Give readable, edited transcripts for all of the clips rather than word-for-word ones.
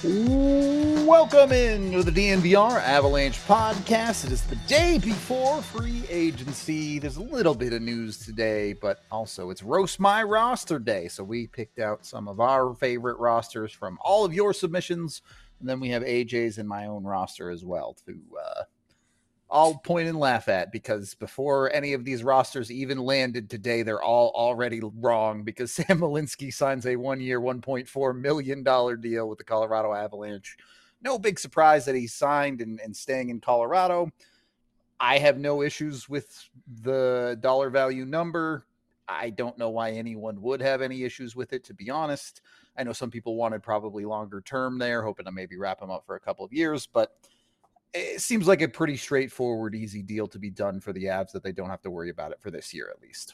Welcome in to the DNVR Avalanche podcast. It is the day before free agency. There's a little bit of news today, but also it's Roast My Roster Day. So we picked out some of our favorite rosters from all of your submissions. And then we have AJ's and my own roster as well to all point and laugh at, because before any of these rosters even landed today, they're all already wrong because Sam Malinski signs a 1-year, $1.4 million deal with the Colorado Avalanche. No big surprise that he signed and staying in Colorado. I have no issues with the dollar value number. I don't know why anyone would have any issues with it, to be honest. I know some people wanted probably longer term there, hoping to maybe wrap him up for a couple of years, but it seems like a pretty straightforward, easy deal to be done for the Avs that they don't have to worry about it for this year, at least.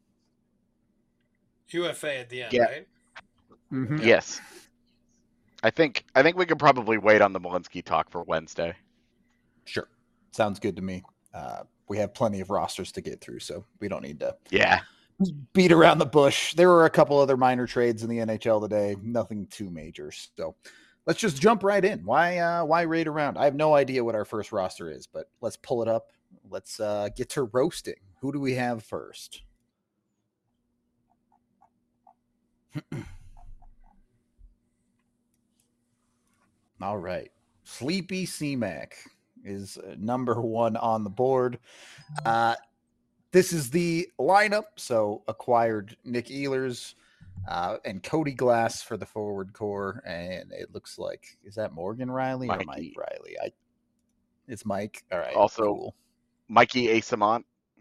UFA at the end, Yeah. right? Mm-hmm. Yes. I think we could probably wait on the Malinski talk for Wednesday. Sure. Sounds good to me. We have plenty of rosters to get through, so we don't need to beat around the bush. There were a couple other minor trades in the NHL today, nothing too major. So let's just jump right in. Why raid around? I have no idea what our first roster is, but let's pull it up. Let's get to roasting. Who do we have first? All right. Sleepy C-Mac is number one on the board. This is the lineup. So acquired Nick Ehlers and Cody Glass for the forward core. And it looks like, is that Morgan Riley or Mike Riley? It's Mike. All right. Also, cool. Mikey Asamont.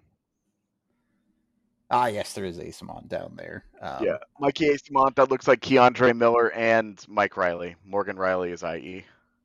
Yes, there is Asamont down there. Mikey Asamont. That looks like Keandre Miller and Mike Riley. Morgan Riley is IE.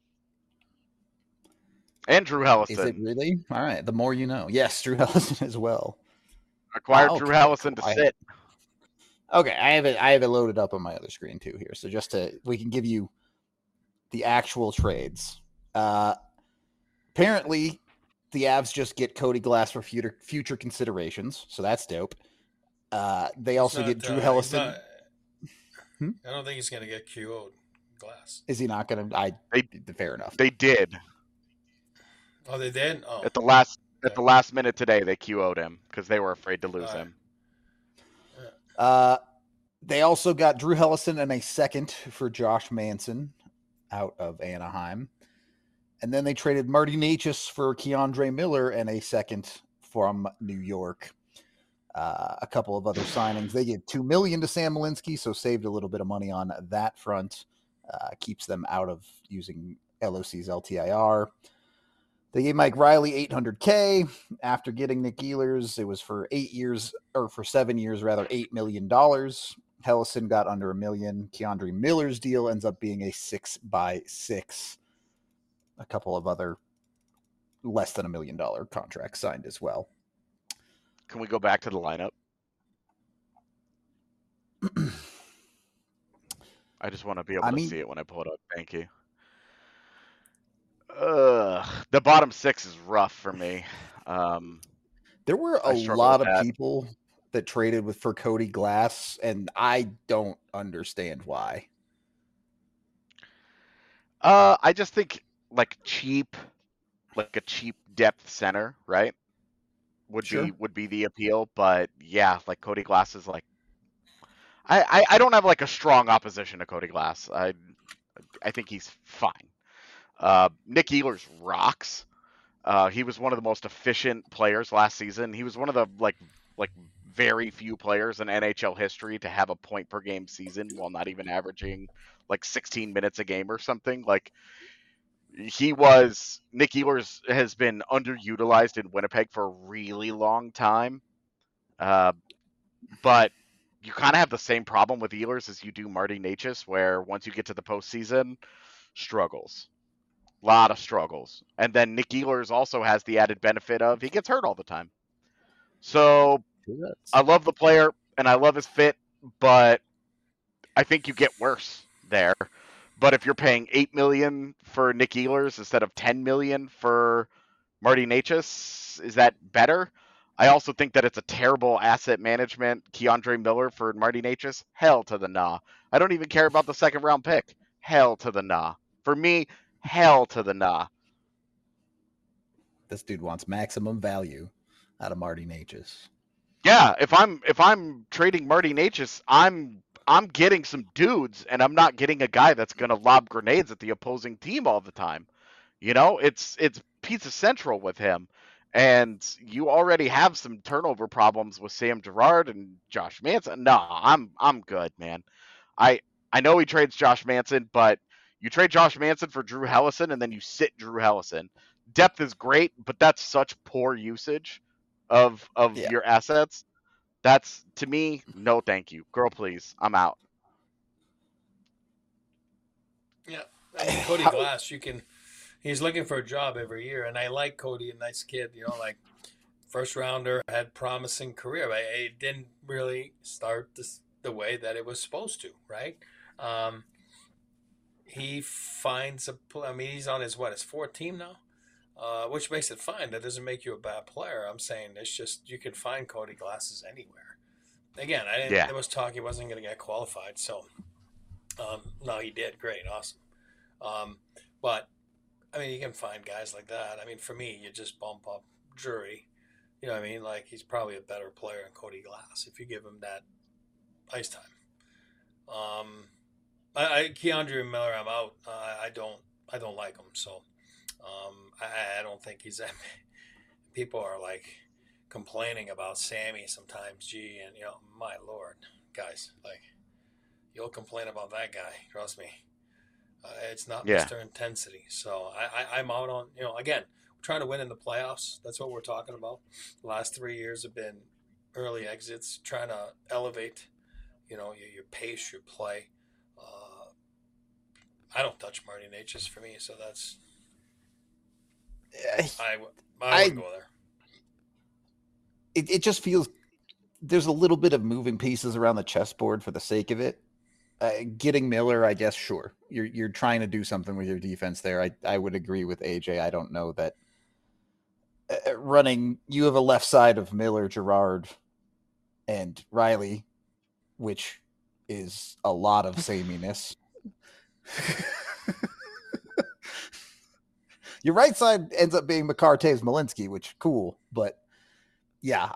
And Drew Hellison. Is it really? All right. The more you know. Yes, Drew Hellison as well. Acquired Drew Hellison to sit. Okay, I have it loaded up on my other screen too here. So we can give you the actual trades. Apparently, the Avs just get Cody Glass for future considerations, so that's dope. They also get Drew Hellison. I don't think he's going to get QO'd Glass. Is he not going to? Fair enough. They did. Oh, they did? Oh. At the last minute today, they QO'd him because they were afraid to lose him. They also got Drew Hellison and a second for Josh Manson out of Anaheim. And then they traded Marty Necas for Keandre Miller and a second from New York. A couple of other signings. They gave $2 million to Sam Malinski, so saved a little bit of money on that front. Keeps them out of using LOC's LTIR. They gave Mike Riley $800K after getting Nick Ehlers. It was for 7 years, $8 million. Hellison got under $1 million. Keandre Miller's deal ends up being a 6x6. A couple of other less than $1 million contracts signed as well. Can we go back to the lineup? I just want to be able to see it when I pull it up. Thank you. The bottom six is rough for me. There were a lot of people that traded for Cody Glass, and I don't understand why. I just think a cheap depth center, right? Would be the appeal, but yeah, Cody Glass is I don't have a strong opposition to Cody Glass. I think he's fine. Nick Ehlers rocks. He was one of the most efficient players last season. He was one of the very few players in NHL history to have a point per game season while not even averaging 16 minutes a game or something. Nick Ehlers has been underutilized in Winnipeg for a really long time. But you kind of have the same problem with Ehlers as you do Marty Necas, where once you get to the postseason, struggles. A lot of struggles. And then Nick Ehlers also has the added benefit of he gets hurt all the time. So I love the player and I love his fit, but I think you get worse there. But if you're paying $8 million for Nick Ehlers instead of $10 million for Marty Necas, is that better? I also think that it's a terrible asset management. Keandre Miller for Marty Necas, hell to the nah. I don't even care about the second round pick. Hell to the nah. For me, hell to the nah. This dude wants maximum value out of Marty Necas. Yeah, if I'm trading Marty Necas, I'm getting some dudes, and I'm not getting a guy that's gonna lob grenades at the opposing team all the time. You know, it's pizza central with him, and you already have some turnover problems with Sam Girard and Josh Manson. No, I'm good, man. I know he trades Josh Manson, but you trade Josh Manson for Drew Hellison, and then you sit Drew Hellison. Depth is great, but that's such poor usage of your assets. That's, to me, no thank you. Girl, please. I'm out. Yeah. I mean, Cody Glass, he's looking for a job every year, and I like Cody, a nice kid, like first rounder, had promising career, but it didn't really start the way that it was supposed to, right? He finds he's on his fourth team now, which makes it fine. That doesn't make you a bad player. I'm saying it's just you can find Cody Glasses anywhere. Again, there was talk he wasn't going to get qualified, so no, he did. Great, awesome. But I mean, you can find guys like that. I mean, for me, you just bump up Drury. You know what I mean? Like, he's probably a better player than Cody Glass if you give him that ice time. Keandre Miller, I'm out. I don't like him. So, I don't think he's that. People are like complaining about Sammy sometimes. Gee, and my Lord, guys, like, you'll complain about that guy. Trust me. It's not Mr. Intensity. So I'm out on, again, we're trying to win in the playoffs. That's what we're talking about. The last 3 years have been early exits, trying to elevate, your pace, your play. I don't touch Marty Necas for me, so that's I wouldn't go there. It just feels there's a little bit of moving pieces around the chessboard for the sake of it. Getting Miller, I guess, sure. You're trying to do something with your defense there. I would agree with AJ. I don't know that you have a left side of Miller, Girard, and Riley, which is a lot of sameness. Your right side ends up being McCarthy Malinsky, which cool, but yeah,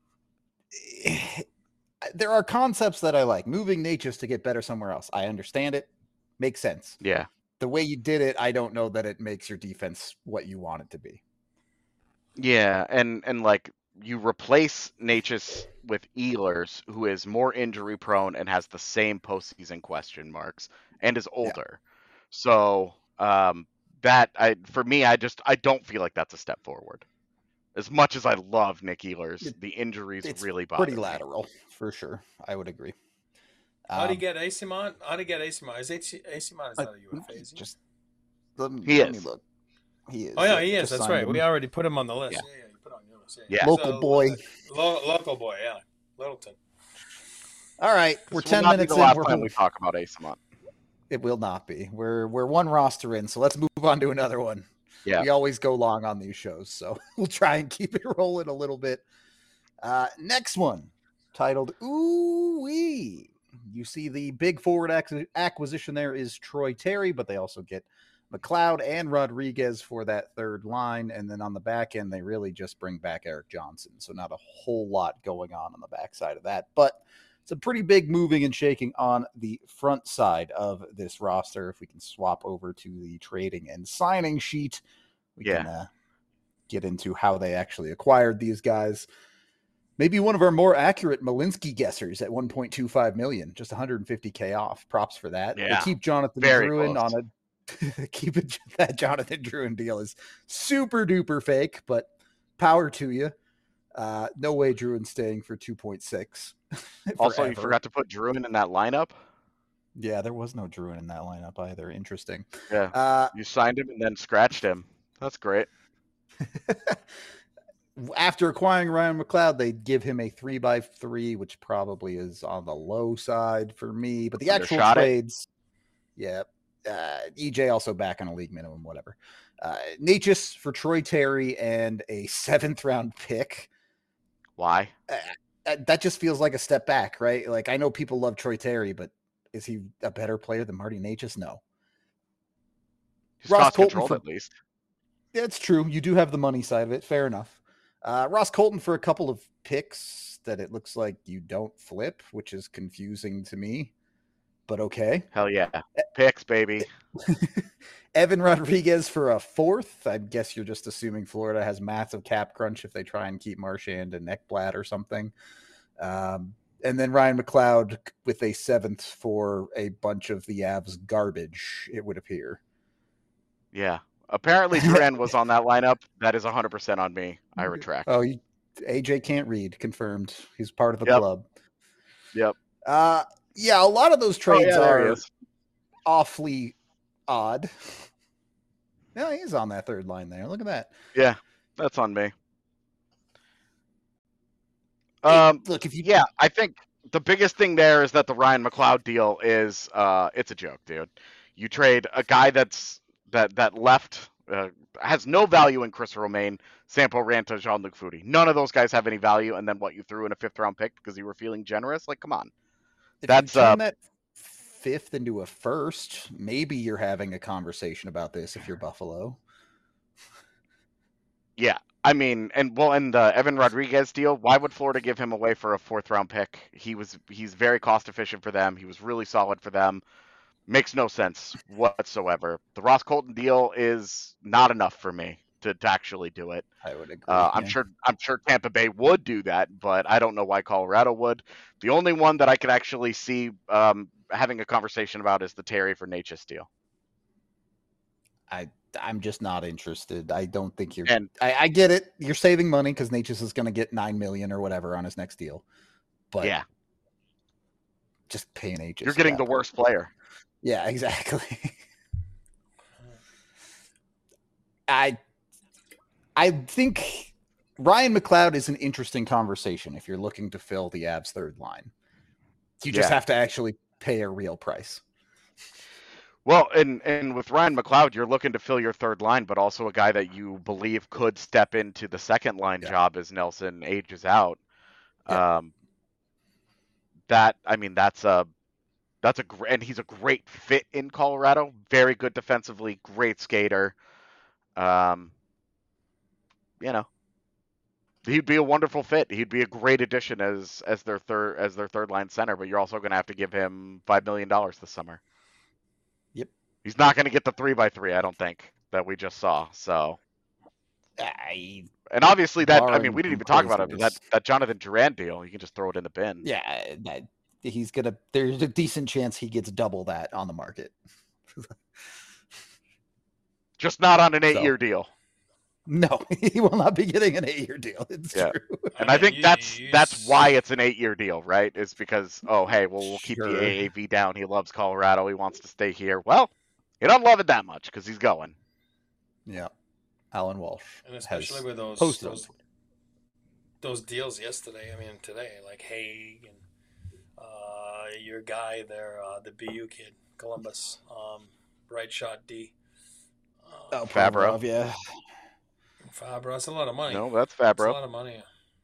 there are concepts that I like. Moving Necas to get better somewhere else. I understand it. Makes sense. Yeah. The way you did it, I don't know that it makes your defense what you want it to be. Yeah, and like, you replace Necas with Ehlers, who is more injury prone and has the same postseason question marks and is older. Yeah. So for me, I don't feel like that's a step forward. As much as I love Nick Ehlers, the injuries really bother me. Pretty lateral, for sure. I would agree. How do you get Asimont? Is Asimont not a UFA? Is he? Let me look. He is. Oh yeah, he is. That's right. We already put him on the list. Yeah, you put on your list. Yeah. Local boy. Local boy. Yeah, Littleton. All right, we're 10 minutes in. Last time we talk about Asimont. It will not be. We're one roster in, so let's move on to another one. Yeah. We always go long on these shows, so we'll try and keep it rolling a little bit. Next one, titled Ooh Wee. You see the big forward acquisition there is Troy Terry, but they also get McLeod and Rodriguez for that third line. And then on the back end, they really just bring back Eric Johnson. So not a whole lot going on the backside of that. But it's a pretty big moving and shaking on the front side of this roster. If we can swap over to the trading and signing sheet, we can get into how they actually acquired these guys. Maybe one of our more accurate Malinsky guessers at $1.25 million, just $150K off. Props for that. Yeah. They keep Jonathan Drouin on that Jonathan Drouin deal is super duper fake, but power to you. No way Drouin's staying for 2.6. Also, you forgot to put Drouin in that lineup. Yeah, there was no Drouin in that lineup either. Interesting. Yeah, you signed him and then scratched him. That's great. After acquiring Ryan McLeod, they give him a 3x3, which probably is on the low side for me. But the actual trades, EJ also back on a league minimum, whatever. Necas for Troy Terry and a 7th round pick. Why? That just feels like a step back, right? Like, I know people love Troy Terry, but is he a better player than Marty Necas? No. He's Ross cost Colton controlled for at least. That's true. You do have the money side of it. Fair enough. Ross Colton for a couple of picks that it looks like you don't flip, which is confusing to me, but okay. Hell yeah. Picks, baby. Evan Rodriguez for a fourth. I guess you're just assuming Florida has massive cap crunch if they try and keep Marchand and Ekblad or something. And then Ryan McLeod with a seventh for a bunch of the Avs garbage, it would appear. Yeah. Apparently Duran was on that lineup. That is 100% on me. I retract. Oh, AJ can't read. Confirmed. He's part of the Yep. club. Yep. Yeah, a lot of those trades there he are is. awfully odd. Yeah, he's on that third line there. Look at that. Yeah, that's on me. Look, if you yeah, I think the biggest thing there is that the Ryan McLeod deal is it's a joke, dude. You trade a guy that left has no value in Chris Romaine, Sampo Ranta, Jean-Luc Foudy. None of those guys have any value, and then what, you threw in a 5th round pick because you were feeling generous? Like, come on. If you turn that 5th into a 1st, maybe you're having a conversation about this if you're Buffalo. Yeah, I mean, and the Evan Rodriguez deal, why would Florida give him away for a 4th round pick? He's very cost efficient for them. He was really solid for them. Makes no sense whatsoever. The Ross Colton deal is not enough for me to actually do it. I would agree. I'm sure Tampa Bay would do that, but I don't know why Colorado would. The only one that I could actually see having a conversation about is the Terry for Necas deal. I'm just not interested. I don't think you're. I get it. You're saving money because Necas is going to get $9 million or whatever on his next deal. But yeah, just pay Necas. You're getting the worst player. Yeah, exactly. I think Ryan McLeod is an interesting conversation if you're looking to fill the Avs third line. You just have to actually pay a real price. Well, and with Ryan McLeod, you're looking to fill your third line, but also a guy that you believe could step into the second line job as Nelson ages out. Yeah. And he's a great fit in Colorado. Very good defensively, great skater. He'd be a wonderful fit. He'd be a great addition as their third line center. But you're also going to have to give him $5 million this summer. Yep. He's not going to get the 3x3, I don't think, that we just saw. So. And obviously we didn't even talk about it. That Jonathan Duran deal, you can just throw it in the bin. Yeah, there's a decent chance he gets double that on the market. Just not on an 8-year deal. No, he will not be getting an 8-year deal. It's true. And I think that's why it's an 8-year deal, right? Is because, we'll keep the AAV down. He loves Colorado. He wants to stay here. Well, he don't love it that much because he's going. Yeah. Alan Walsh. And especially with those deals yesterday, today, like Haig and your guy there, the BU kid, Columbus, right shot D. Fabro. Yeah. Fabro, that's a lot of money. No, that's Fabro. That's a lot of money.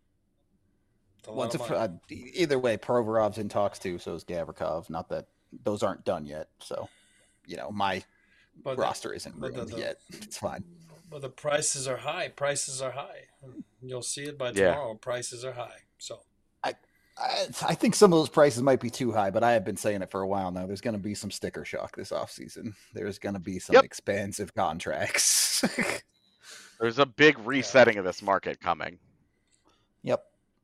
Either way, Provorov's in talks too, so is Gavrikov. Not that those aren't done yet. So, my roster isn't ruined yet. It's fine. But the prices are high. You'll see it by tomorrow. Prices are high. So I think some of those prices might be too high, but I have been saying it for a while now. There's going to be some sticker shock this offseason. There's going to be some expansive contracts. There's a big resetting of this market coming. Yep.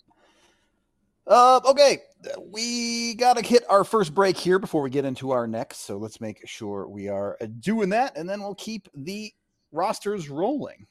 Okay. We got to hit our first break here before we get into our next. So let's make sure we are doing that, and then we'll keep the rosters rolling.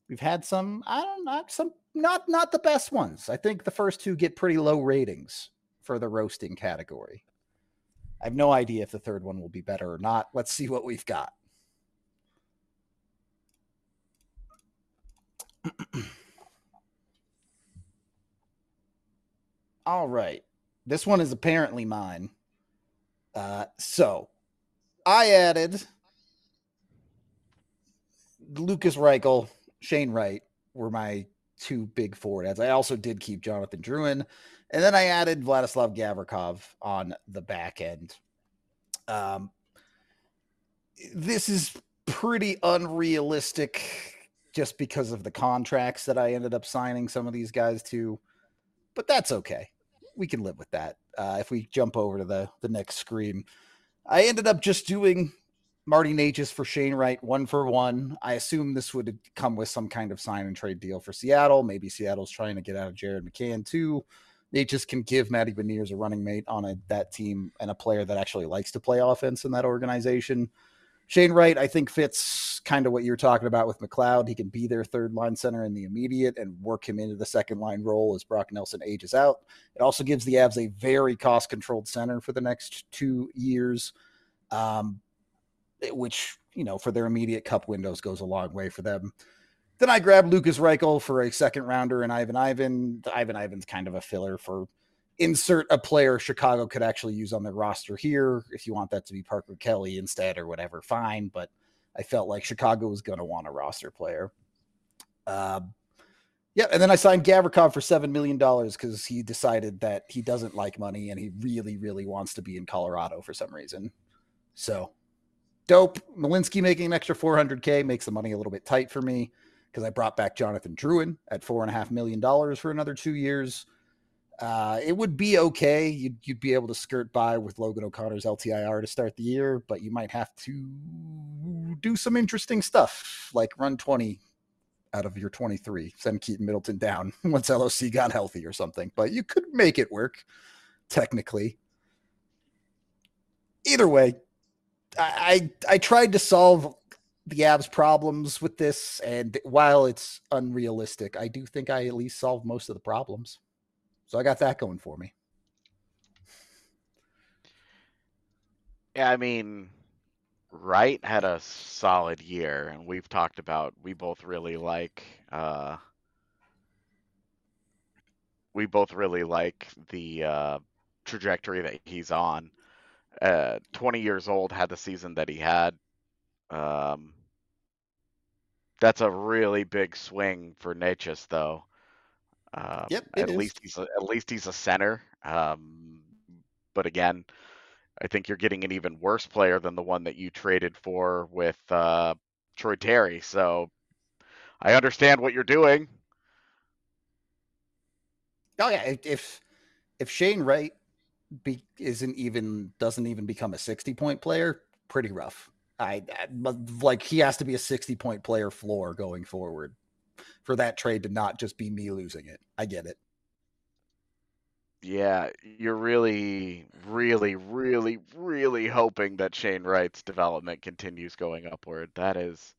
We've had some, I don't know, some not the best ones. I think the first two get pretty low ratings for the roasting category. I have no idea if the third one will be better or not. Let's see what we've got. All right. This one is apparently mine. So I added Lucas Reichel, Shane Wright were my two big forward ads. I also did keep Jonathan Drouin. And then I added Vladislav Gavrikov on the back end. This is pretty unrealistic just because of the contracts that I ended up signing some of these guys to. But that's okay. We can live with that. If we jump over to the next screen, I ended up just doing Marty Necas for Shane Wright 1-for-1. I assume this would come with some kind of sign and trade deal for Seattle. Maybe Seattle's trying to get out of Jared McCann too. Necas can give Matty Beniers a running mate on that team and a player that actually likes to play offense in that organization. Shane Wright, I think, fits kind of what you were talking about with McLeod. He can be their third line center in the immediate and work him into the second line role as Brock Nelson ages out. It also gives the Avs a very cost-controlled center for the next 2 years, which, for their immediate cup windows goes a long way for them. Then I grabbed Lucas Reichel for a second rounder and Ivan Ivan. Ivan Ivan's kind of a filler for insert a player Chicago could actually use on their roster here. If you want that to be Parker Kelly instead or whatever, fine. But I felt like Chicago was going to want a roster player. And then I signed Gavrikov for $7 million because he decided that he doesn't like money and he really, really wants to be in Colorado for some reason. So dope. Malinsky making an extra $400K makes the money a little bit tight for me because I brought back Jonathan Drouin at $4.5 million for another 2 years. It would be okay. You'd be able to skirt by with Logan O'Connor's LTIR to start the year, but you might have to do some interesting stuff, like run 20 out of your 23, send Keaton Middleton down once LOC got healthy or something. But you could make it work, technically. Either way, I tried to solve the Avs' problems with this, and while it's unrealistic, I do think I at least solved most of the problems. So I got that going for me. Yeah, I mean, Wright had a solid year, and we've talked about we both really like the trajectory that he's on. 20 years old, had the season that he had. That's a really big swing for Necas, though. At least he's a center. But again, I think you're getting an even worse player than the one that you traded for with Troy Terry. So I understand what you're doing. Oh yeah, if Shane Wright doesn't even become a 60-point player, pretty rough. He has to be a 60-point player floor going forward for that trade to not just be me losing it. I get it. Yeah, you're really, really, really, really hoping that Shane Wright's development continues going upward. That is...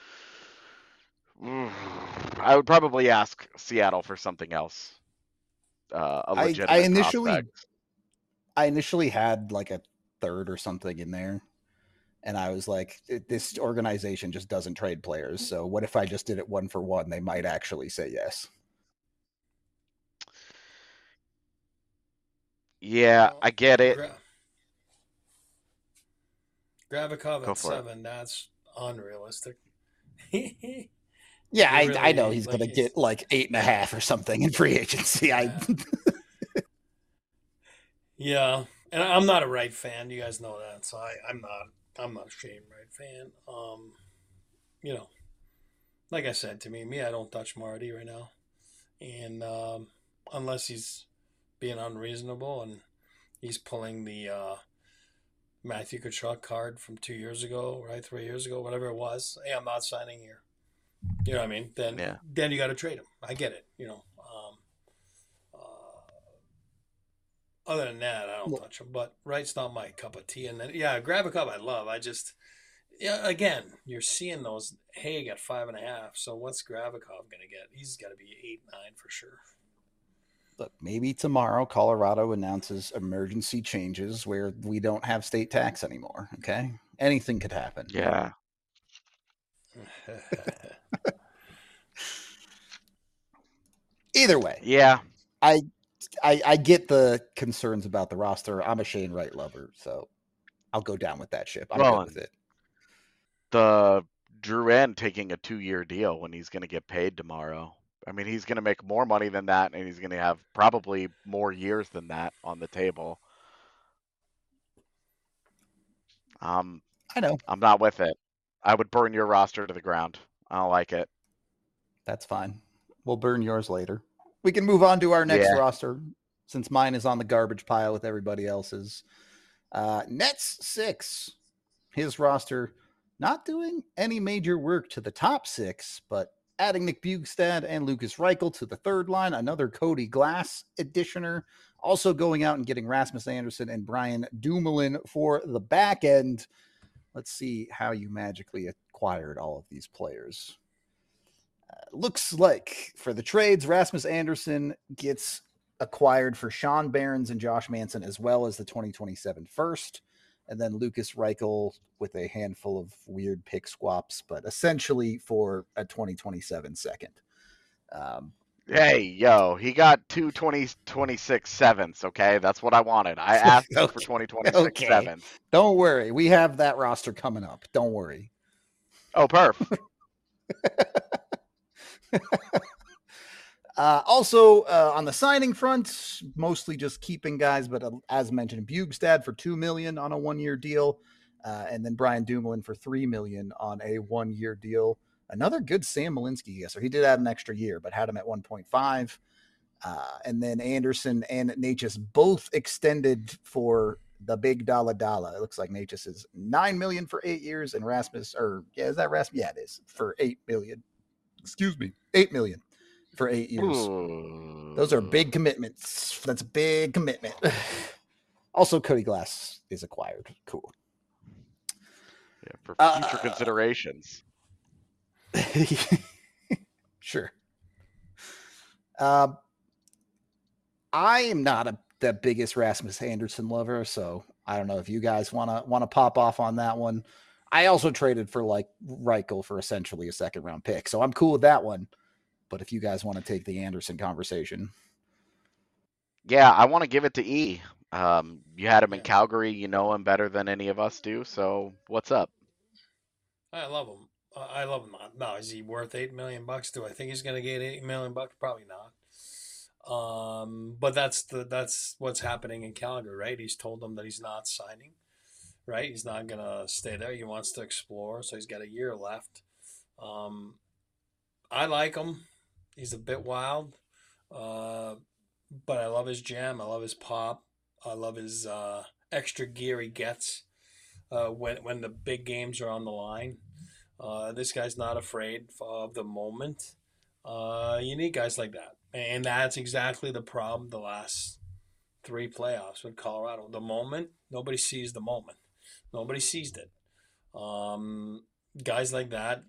I would probably ask Seattle for something else. A legitimate prospect. I initially had like a third or something in there. And I was like, this organization just doesn't trade players. So what if I just did it 1-for-1? They might actually say yes. Yeah, I get it. Gavrikov at 7, that's unrealistic. Yeah, I know he's going to get like 8.5 or something in free agency. Yeah, and I'm not a Wright fan. You guys know that, so I'm not a Shane Wright fan. Like I said, to me, I don't touch Marty right now, and unless he's being unreasonable and he's pulling the Matthew Tkachuk card from 2 years ago, right, 3 years ago, whatever it was. Hey, I'm not signing here. You know what I mean? Then you got to trade him. I get it. Other than that, I don't touch him. But Wright's not my cup of tea. And then, Gavrikov I love. Yeah, again, you're seeing those. Hey, got 5.5. So what's Gravikov gonna get? He's got to be 8, 9 for sure. Look, maybe tomorrow Colorado announces emergency changes where we don't have state tax anymore. Okay, anything could happen. Yeah. Either way, Yeah. I get the concerns about the roster. I'm a Shane Wright lover, so I'll go down with that ship. I'm Well, good with it. the Drouin taking a 2-year deal when he's going to get paid tomorrow. I mean, he's going to make more money than that, and he's going to have probably more years than that on the table. I know. I'm not with it. I would burn your roster to the ground. I don't like it. That's fine. We'll burn yours later. We can move on to our next Yeah. roster since mine is on the garbage pile with everybody else's. Nets 6. His roster not doing any major work to the top 6, but adding Nick Bjugstad and Lucas Reichel to the third line, another Cody Glass additioner, also going out and getting Rasmus Andersson and Brian Dumoulin for the back end. Let's see how you magically acquired all of these players. Looks like for the trades, Rasmus Andersson gets acquired for Sean Barons and Josh Manson, as well as the 2027 first. And then Lucas Reichel with a handful of weird pick swaps, but essentially for a 2027 second. Hey, yo, he got 2 2026 sevenths, okay? That's what I wanted. I asked Okay. for 2026 sevenths. Don't worry. We have that roster coming up. Don't worry. Oh, perf. Also, on the signing front, mostly just keeping guys, but as mentioned, Bjugstad for $2 million on a 1-year deal, and then Brian Dumoulin for $3 million on a 1-year deal. Another good Sam Malinsky guesser. He did add an extra year, but had him at 1.5. And then Anderson and Natchez both extended for the big dollar. It looks like Natchez is $9 million for 8 years, and Rasmus, is that Rasmus? Yeah, it is for $8 million. Excuse me, $8 million for 8 years. Ooh. Those are big commitments. That's a big commitment. Also, Cody Glass is acquired. Cool. Yeah, for future considerations. Sure. I am not the biggest Rasmus Andersson lover, so I don't know if you guys want to pop off on that one. I also traded for like Reichel for essentially a second round pick, so I'm cool with that one. But if you guys want to take the Andersson conversation, yeah, I want to give it to E. You had him in Calgary. You know him better than any of us do. So what's up? I love him. I love him. Now, is he worth $8 million? Do I think he's going to get $8 million? Probably not. But that's what's happening in Calgary, right? He's told them that he's not signing, right? He's not going to stay there. He wants to explore, so he's got a year left. I like him. He's a bit wild, but I love his jam. I love his pop. I love his extra gear he gets when the big games are on the line. This guy's not afraid of the moment. You need guys like that. And that's exactly the problem the last 3 playoffs with Colorado. The moment, nobody sees the moment. Nobody sees it. Guys like that,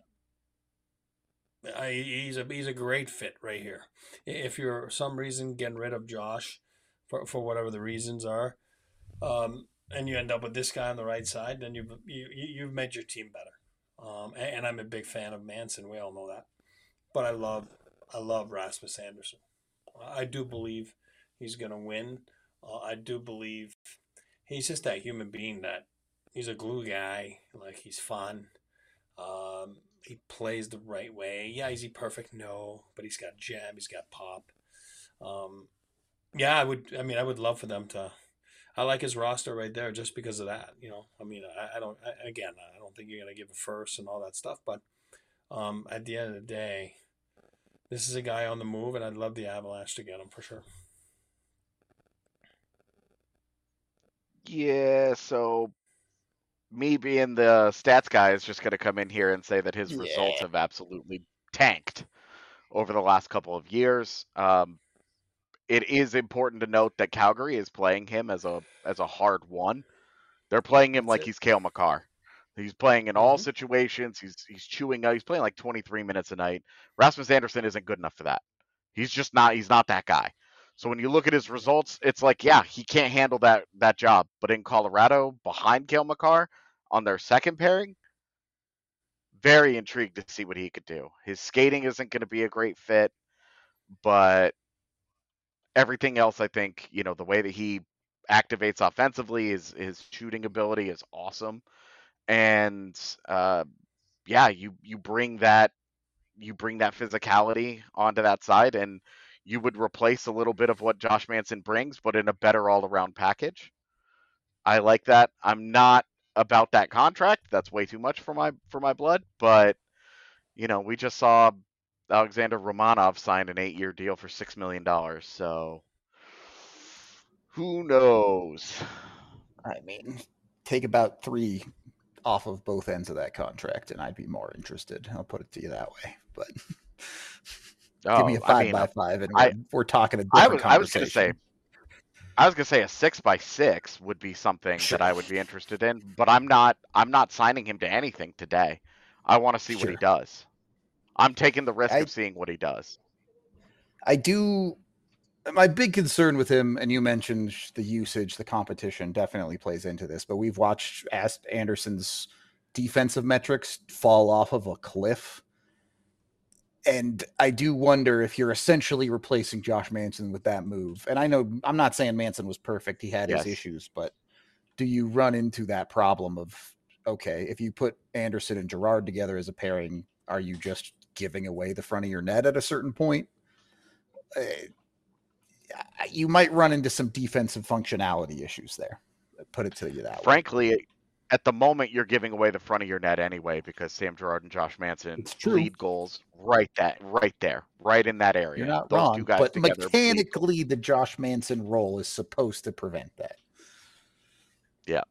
he's a great fit right here. If you're for some reason getting rid of Josh for whatever the reasons are, and you end up with this guy on the right side, then you've made your team better. And I'm a big fan of Manson. We all know that. But I love Rasmus Andersson. I do believe he's going to win. I do believe he's just that human being that he's a glue guy. Like, he's fun. He plays the right way. Yeah, is he perfect? No, but he's got jam. He's got pop. Yeah, I would love for them to. I like his roster right there just because of that. I don't think you're going to give a first and all that stuff, but at the end of the day, this is a guy on the move, and I'd love the Avalanche to get him for sure. Yeah, so me being the stats guy is just going to come in here and say that his results have absolutely tanked over the last couple of years. It is important to note that Calgary is playing him as a hard one. They're playing him like he's Cale Makar. He's playing in all situations. He's chewing out. He's playing like 23 minutes a night. Rasmus Andersson isn't good enough for that. He's just not. He's not that guy. So when you look at his results, it's like, yeah, he can't handle that job. But in Colorado, behind Cale Makar on their second pairing, very intrigued to see what he could do. His skating isn't going to be a great fit, but everything else, I think, the way that he activates offensively, his shooting ability is awesome. And you bring that physicality onto that side, and you would replace a little bit of what Josh Manson brings, but in a better all-around package. I like that. I'm not about that contract. That's way too much for my blood. But we just saw Alexander Romanov sign an 8-year deal for $6 million. So who knows? I mean, take about 3 off of both ends of that contract, and I'd be more interested. I'll put it to you that way. But give me a 5x5, and we're talking a different conversation. I was gonna say a 6x6 would be something that I would be interested in, but I'm not signing him to anything today. I want to see what he does. I'm taking the risk of seeing what he does. I do. My big concern with him, and you mentioned the usage, the competition definitely plays into this, but we've watched Andersson's defensive metrics fall off of a cliff. And I do wonder if you're essentially replacing Josh Manson with that move. And I know I'm not saying Manson was perfect. He had his issues, but do you run into that problem of, okay, if you put Andersson and Girard together as a pairing, are you just giving away the front of your net at a certain point? You might run into some defensive functionality issues there. Put it to you that way. Frankly, at the moment, you're giving away the front of your net anyway, because Sam Girard and Josh Manson lead goals right there, right in that area. You're not Those wrong, two guys but together mechanically, the Josh Manson role is supposed to prevent that. Yeah.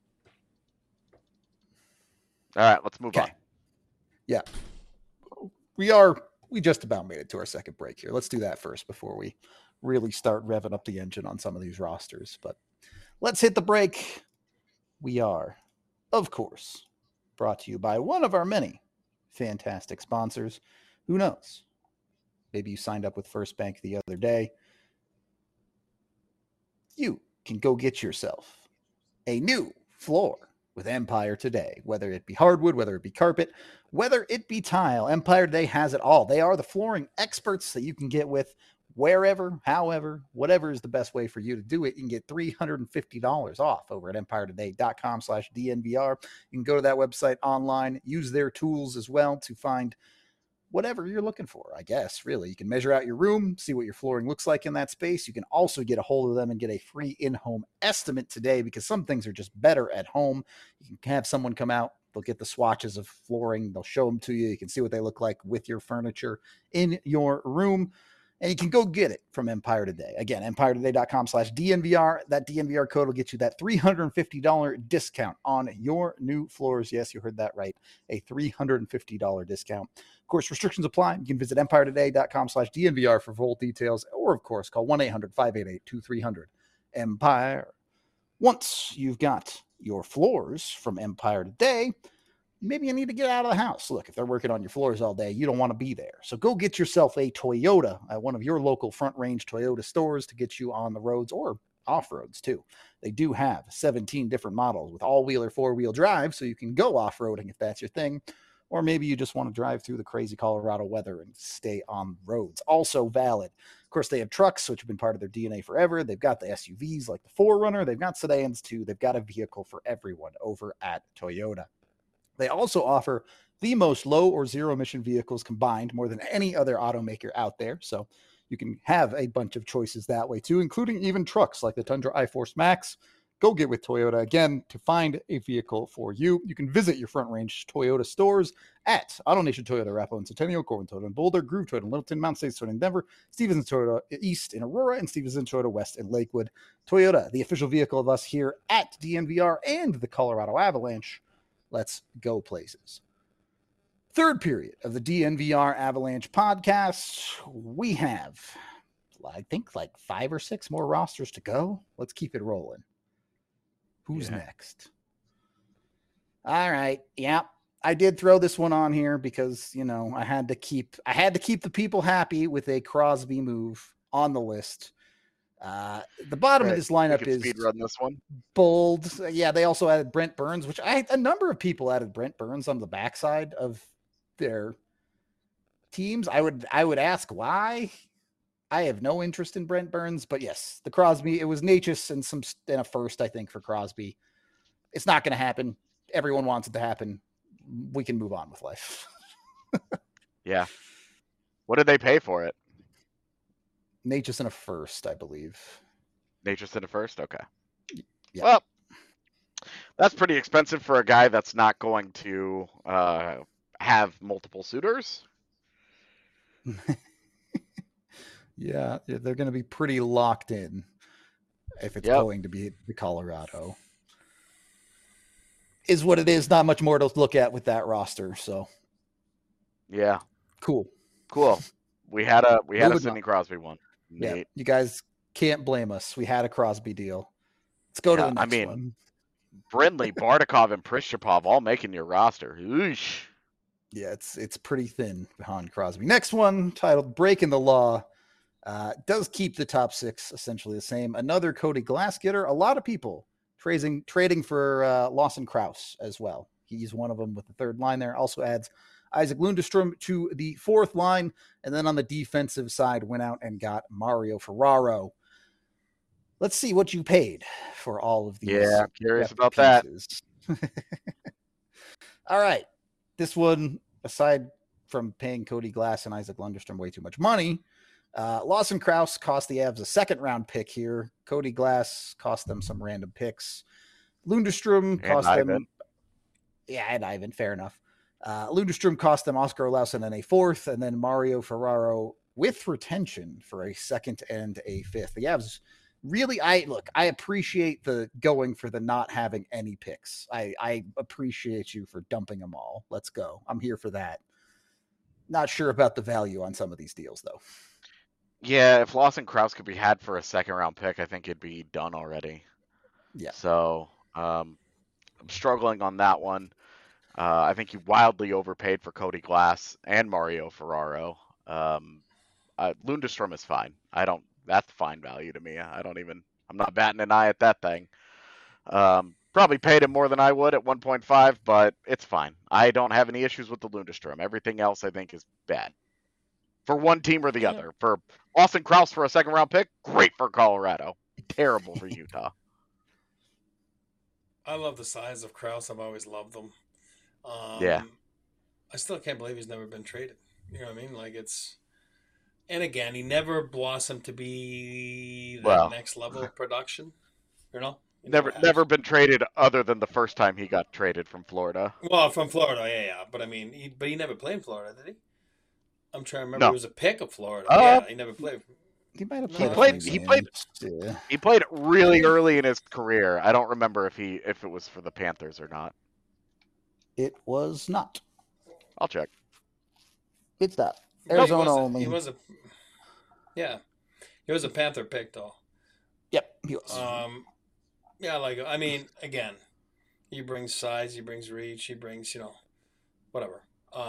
All right, let's move on. Yeah. We just about made it to our second break here. Let's do that first before we really start revving up the engine on some of these rosters. But let's hit the break. We are, of course, brought to you by one of our many fantastic sponsors. Who knows? Maybe you signed up with First Bank the other day. You can go get yourself a new floor with Empire today, whether it be hardwood, whether it be carpet, whether it be tile. Empire Today has it all. They are the flooring experts that you can get with wherever, however, whatever is the best way for you to do it. You can get $350 off over at empiretoday.com/DNVR. You can go to that website online, use their tools as well to find whatever you're looking for, I guess, really. You can measure out your room, see what your flooring looks like in that space. You can also get a hold of them and get a free in-home estimate today, because some things are just better at home. You can have someone come out. They'll get the swatches of flooring. They'll show them to you. You can see what they look like with your furniture in your room. And you can go get it from Empire Today. Again, empiretoday.com/DNVR. That DNVR code will get you that $350 discount on your new floors. Yes, you heard that right. A $350 discount. Of course, restrictions apply. You can visit empiretoday.com/DNVR for full details, or, of course, call 1-800-588-2300. Empire. Once you've got your floors from Empire Today, maybe you need to get out of the house. Look, if they're working on your floors all day, you don't want to be there. So go get yourself a Toyota at one of your local Front Range Toyota stores to get you on the roads, or off-roads too. They do have 17 different models with all-wheel or four-wheel drive, so you can go off-roading if that's your thing. Or maybe you just want to drive through the crazy Colorado weather and stay on roads. Also valid. Of course, they have trucks, which have been part of their DNA forever. They've got the SUVs like the 4Runner. They've got sedans too. They've got a vehicle for everyone over at Toyota. They also offer the most low or zero emission vehicles combined, more than any other automaker out there. So you can have a bunch of choices that way too, including even trucks like the Tundra iForce Max. Go get with Toyota. Again, to find a vehicle for you, you can visit your Front Range Toyota stores at AutoNation Toyota, Arapahoe and Centennial, Corbin Toyota in Boulder, Groove Toyota in Littleton, Mount States Toyota in Denver, Stevenson Toyota East in Aurora, and Stevenson Toyota West in Lakewood. Toyota, the official vehicle of us here at DNVR and the Colorado Avalanche. Let's go places. Third period of the DNVR Avalanche podcast. We have, I think, like 5 or 6 more rosters to go. Let's keep it rolling. Who's next? All right. Yeah. I did throw this one on here because, I had to keep the people happy with a Crosby move on the list. The bottom of Right. this We lineup could is speed run this one. bold. Yeah, they also added Brent Burns, which a number of people added Brent Burns on the backside of their teams. I would ask why. I have no interest in Brent Burns, but yes, the Crosby, it was Natchez and a first, I think, for Crosby. It's not going to happen. Everyone wants it to happen. We can move on with life. Yeah. What did they pay for it? Natchez and a first, I believe. Natchez in a first? Okay. Yeah. Well, that's pretty expensive for a guy that's not going to have multiple suitors. Yeah, they're going to be pretty locked in if it's going to be the Colorado. Is what it is. Not much more to look at with that roster. So, yeah, cool. We had a Sidney Crosby one. Neat. Yeah, you guys can't blame us. We had a Crosby deal. Let's go to the next one. Brindley, Bardakov, and Prishchapov all making your roster. Oosh. Yeah, it's pretty thin behind Crosby. Next one, titled "Breaking the Law." Does keep the top six essentially the same. Another Cody Glass getter. A lot of people trading for Lawson Krause as well. He's one of them with the third line there. Also adds Isaac Lundestrom to the fourth line. And then on the defensive side, went out and got Mario Ferraro. Let's see what you paid for all of these. Yeah, I'm curious about pieces. That. All right. This one, aside from paying Cody Glass and Isaac Lundestrom way too much money, Lawson Krause cost the Avs a second-round pick here. Cody Glass cost them some random picks. Lundestrom cost them... Yeah, and Ivan, fair enough. Lundestrom cost them Oscar Olausson and a fourth, and then Mario Ferraro with retention for a second and a fifth. The Avs really, I appreciate the going for the not having any picks. I appreciate you for dumping them all. Let's go. I'm here for that. Not sure about the value on some of these deals, though. Yeah, if Lawson Krause could be had for a second-round pick, I think it'd be done already. Yeah. So I'm struggling on that one. I think you wildly overpaid for Cody Glass and Mario Ferraro. Lundestrom is fine. That's fine value to me. I'm not batting an eye at that thing. Probably paid him more than I would at 1.5, but it's fine. I don't have any issues with the Lundestrom. Everything else I think is bad. For one team or the other. For Lawson Krause for a second-round pick, great for Colorado. Terrible for Utah. I love the size of Krause. I've always loved them. Yeah. I still can't believe he's never been traded. You know what I mean? Like and again, he never blossomed to be the next level of production. Never been traded other than the first time he got traded from Florida. Well, from Florida, yeah. But I mean, he never played in Florida, did he? I'm trying to remember. No. He was a pick of Florida. Yeah, he never played. He might have played. He played really early in his career. I don't remember if it was for the Panthers or not. It was not. I'll check. It's not. Arizona only. He was a Panther pick though. Yep, he was. Yeah, again, he brings size, he brings reach, he brings, whatever.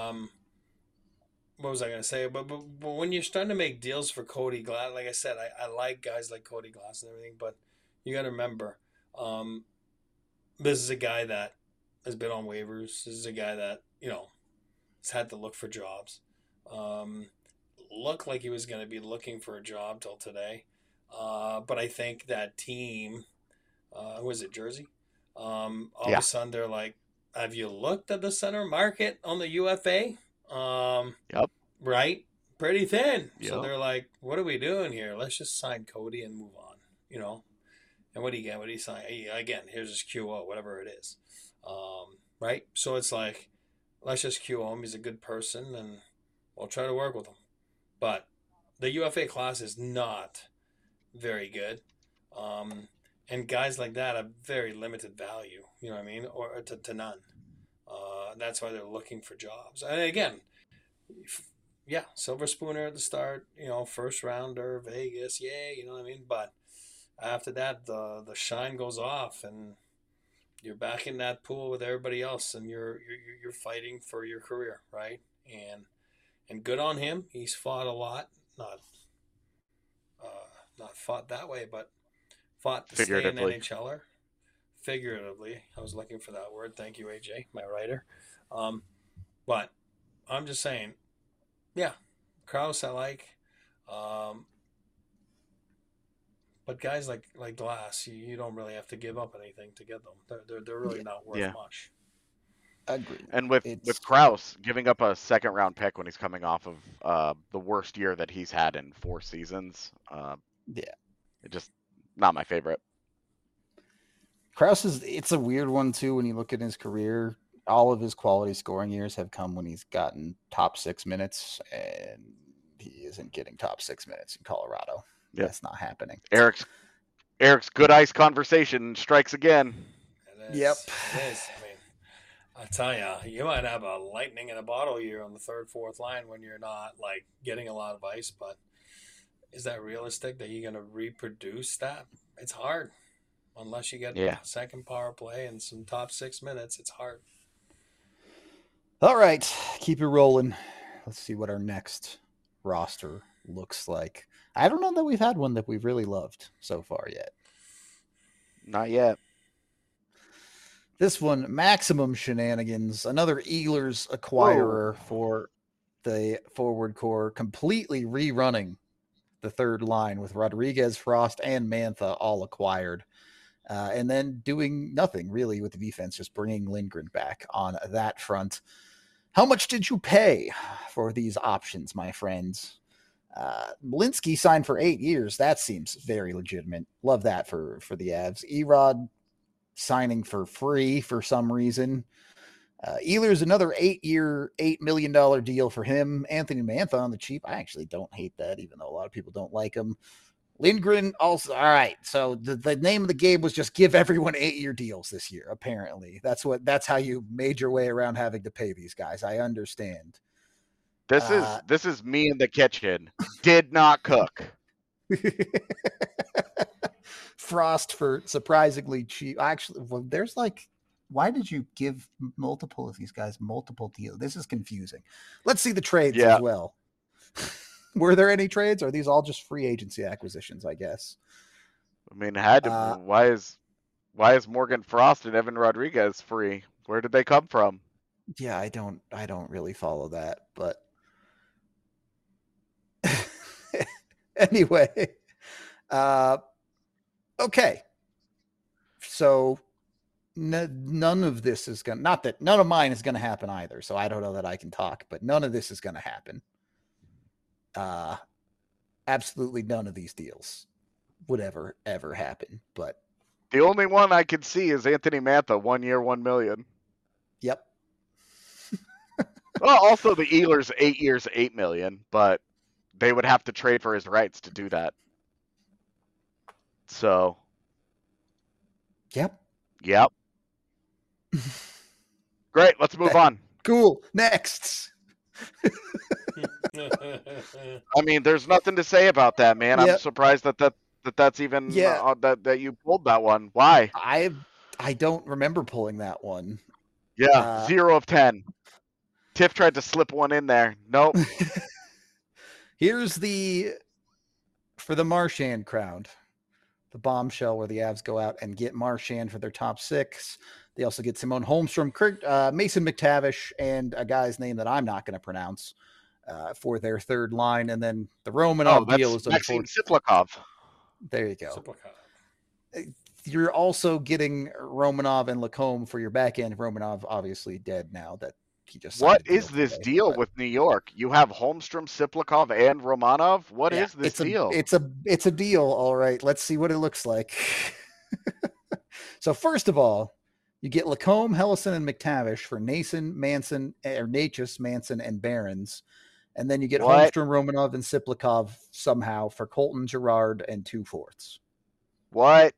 What was I going to say? But when you're starting to make deals for Cody Glass, like I said, I like guys like Cody Glass and everything, but you got to remember, this is a guy that has been on waivers. This is a guy that, has had to look for jobs. Looked like he was going to be looking for a job till today. But I think that team, who is it, Jersey? All of a sudden they're like, have you looked at the center market on the UFA? Yep. Right? Pretty thin. Yep. So they're like, what are we doing here? Let's just sign Cody and move on, And what do you get? What do you sign? Again, here's his QO, whatever it is. Right? So it's like, let's just QO him. He's a good person and we'll try to work with him. But the UFA class is not very good. And guys like that have very limited value, you know what I mean? Or to none. That's why they're looking for jobs. And again, Silver Spooner at the start, first rounder, Vegas, yay, you know what I mean? But after that, the shine goes off, and you're back in that pool with everybody else, and you're fighting for your career, right? And good on him. He's fought a lot, not not fought that way, but fought to stay an Figuratively. NHLer. Figuratively, I was looking for that word. Thank you, AJ, my writer. But I'm just saying, yeah, Kraus I like, um, but guys like Glass, you don't really have to give up anything to get them. They're really Yeah, not worth Yeah. much. agreed. And with It's Kraus giving up a second round pick when he's coming off of the worst year that he's had in 4 seasons, yeah. it just not my favorite. Krause it's a weird one too when you look at his career. All of his quality scoring years have come when he's gotten top 6 minutes, and he isn't getting top 6 minutes in Colorado. Yep. That's not happening. Eric's good ice conversation strikes again. It is. Yep. It is. I mean, I tell you, you might have a lightning in a bottle here on the third, fourth line when you're not like getting a lot of ice. But is that realistic that you're going to reproduce that? It's hard unless you get Yeah. a second power play and some top 6 minutes. It's hard. All right, keep it rolling. Let's see what our next roster looks like. I don't know that we've had one that we've really loved so far yet. Not yet. This one, Maximum Shenanigans, another Ehlers acquirer for the forward core, completely rerunning the third line with Rodriguez, Frost, and Mantha all acquired. And then doing nothing really with the defense, just bringing Lindgren back on that front. How much did you pay for these options, my friends? Malinsky signed for 8 years. That seems very legitimate. Love that for the Avs. Erod signing for free for some reason. Ehlers, another 8-year, $8 million deal for him. Anthony Mantha on the cheap. I actually don't hate that, even though a lot of people don't like him. Lindgren also, all right. So the name of the game was just give everyone 8-year deals this year. Apparently, that's how you made your way around having to pay these guys. I understand. This is me in the kitchen. Did not cook. Frost for surprisingly cheap. Actually, well, there's like, why did you give multiple of these guys multiple deals? This is confusing. Let's see the trades as well. Were there any trades? Or are these all just free agency acquisitions, I guess? I mean, why is Morgan Frost and Evan Rodriguez free? Where did they come from? Yeah, I don't really follow that, but anyway. Okay. So none of this is going to, not that none of mine is going to happen either. So I don't know that I can talk, but none of this is going to happen. Absolutely none of these deals would ever happen. But the only one I could see is Anthony Mantha, 1 year, $1 million. Yep. Well, also the Ehlers, 8 years, $8 million, but they would have to trade for his rights to do that. So. Yep. Great. Let's move on. Cool. Next. I mean, there's nothing to say about that, man. Yep. I'm surprised that's even that you pulled that one. Why? I don't remember pulling that one. Yeah, 0 of 10. Tiff tried to slip one in there. Nope. Here's for the Marchand crowd, the bombshell where the Avs go out and get Marchand for their top 6. They also get Simone Holmstrom, Mason McTavish, and a guy's name that I'm not going to pronounce for their third line. And then the Romanov deal is Maxim Siplikov. There you go. You're also getting Romanov and Lacombe for your back end. Romanov obviously dead now that he just. What is this deal with New York? You have Holmstrom, Siplikov, and Romanov. What is this deal? It's a deal. All right, let's see what it looks like. So first of all, you get Lacombe, Hellison, and McTavish for Nachis, Manson, and Barons. And then you get Holmstrom, Romanov, and Siplikov somehow for Colton, Girard, and 2 fourths. What?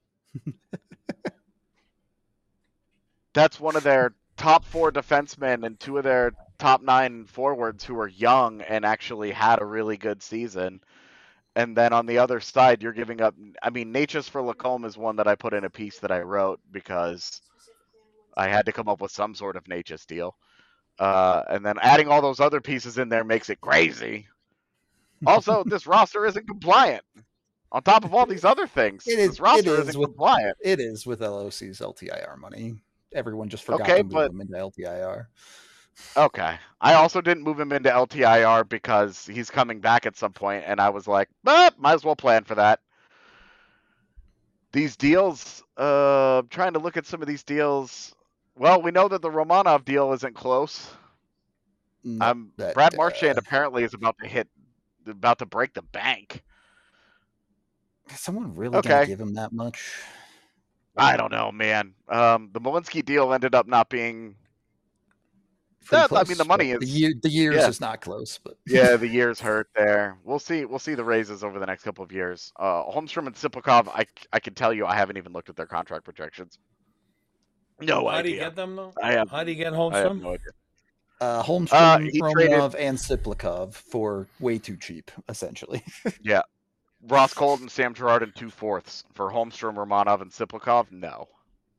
That's one of their top 4 defensemen and 2 of their top 9 forwards who are young and actually had a really good season. And then on the other side, you're giving up. I mean, Natchez for Lacombe is one that I put in a piece that I wrote because I had to come up with some sort of Natchez deal. And then adding all those other pieces in there makes it crazy. Also, this roster isn't compliant. On top of all these other things, this roster isn't compliant. It is with LOC's LTIR money. Everyone just forgot to move him into LTIR. Okay. I also didn't move him into LTIR because he's coming back at some point, and I was like, might as well plan for that. These deals, trying to look at some of these deals. Well, we know that the Romanov deal isn't close. Brad Marchand apparently is about to break the bank. Is someone really gonna give him that much? I don't know, man. The Malinsky deal ended up not being. Close, I mean, the money is the years is not close, but yeah, the years hurt there. We'll see the raises over the next couple of years. Holmstrom and Siplikov, I can tell you, I haven't even looked at their contract projections. No idea. How do you get them though? How do you get Holmstrom? I have no idea. Holmstrom, Romanov, and Siplikov for way too cheap, essentially. Yeah. Ross Colton, Sam Girard, and 2/4 for Holmstrom, Romanov, and Siplikov. No,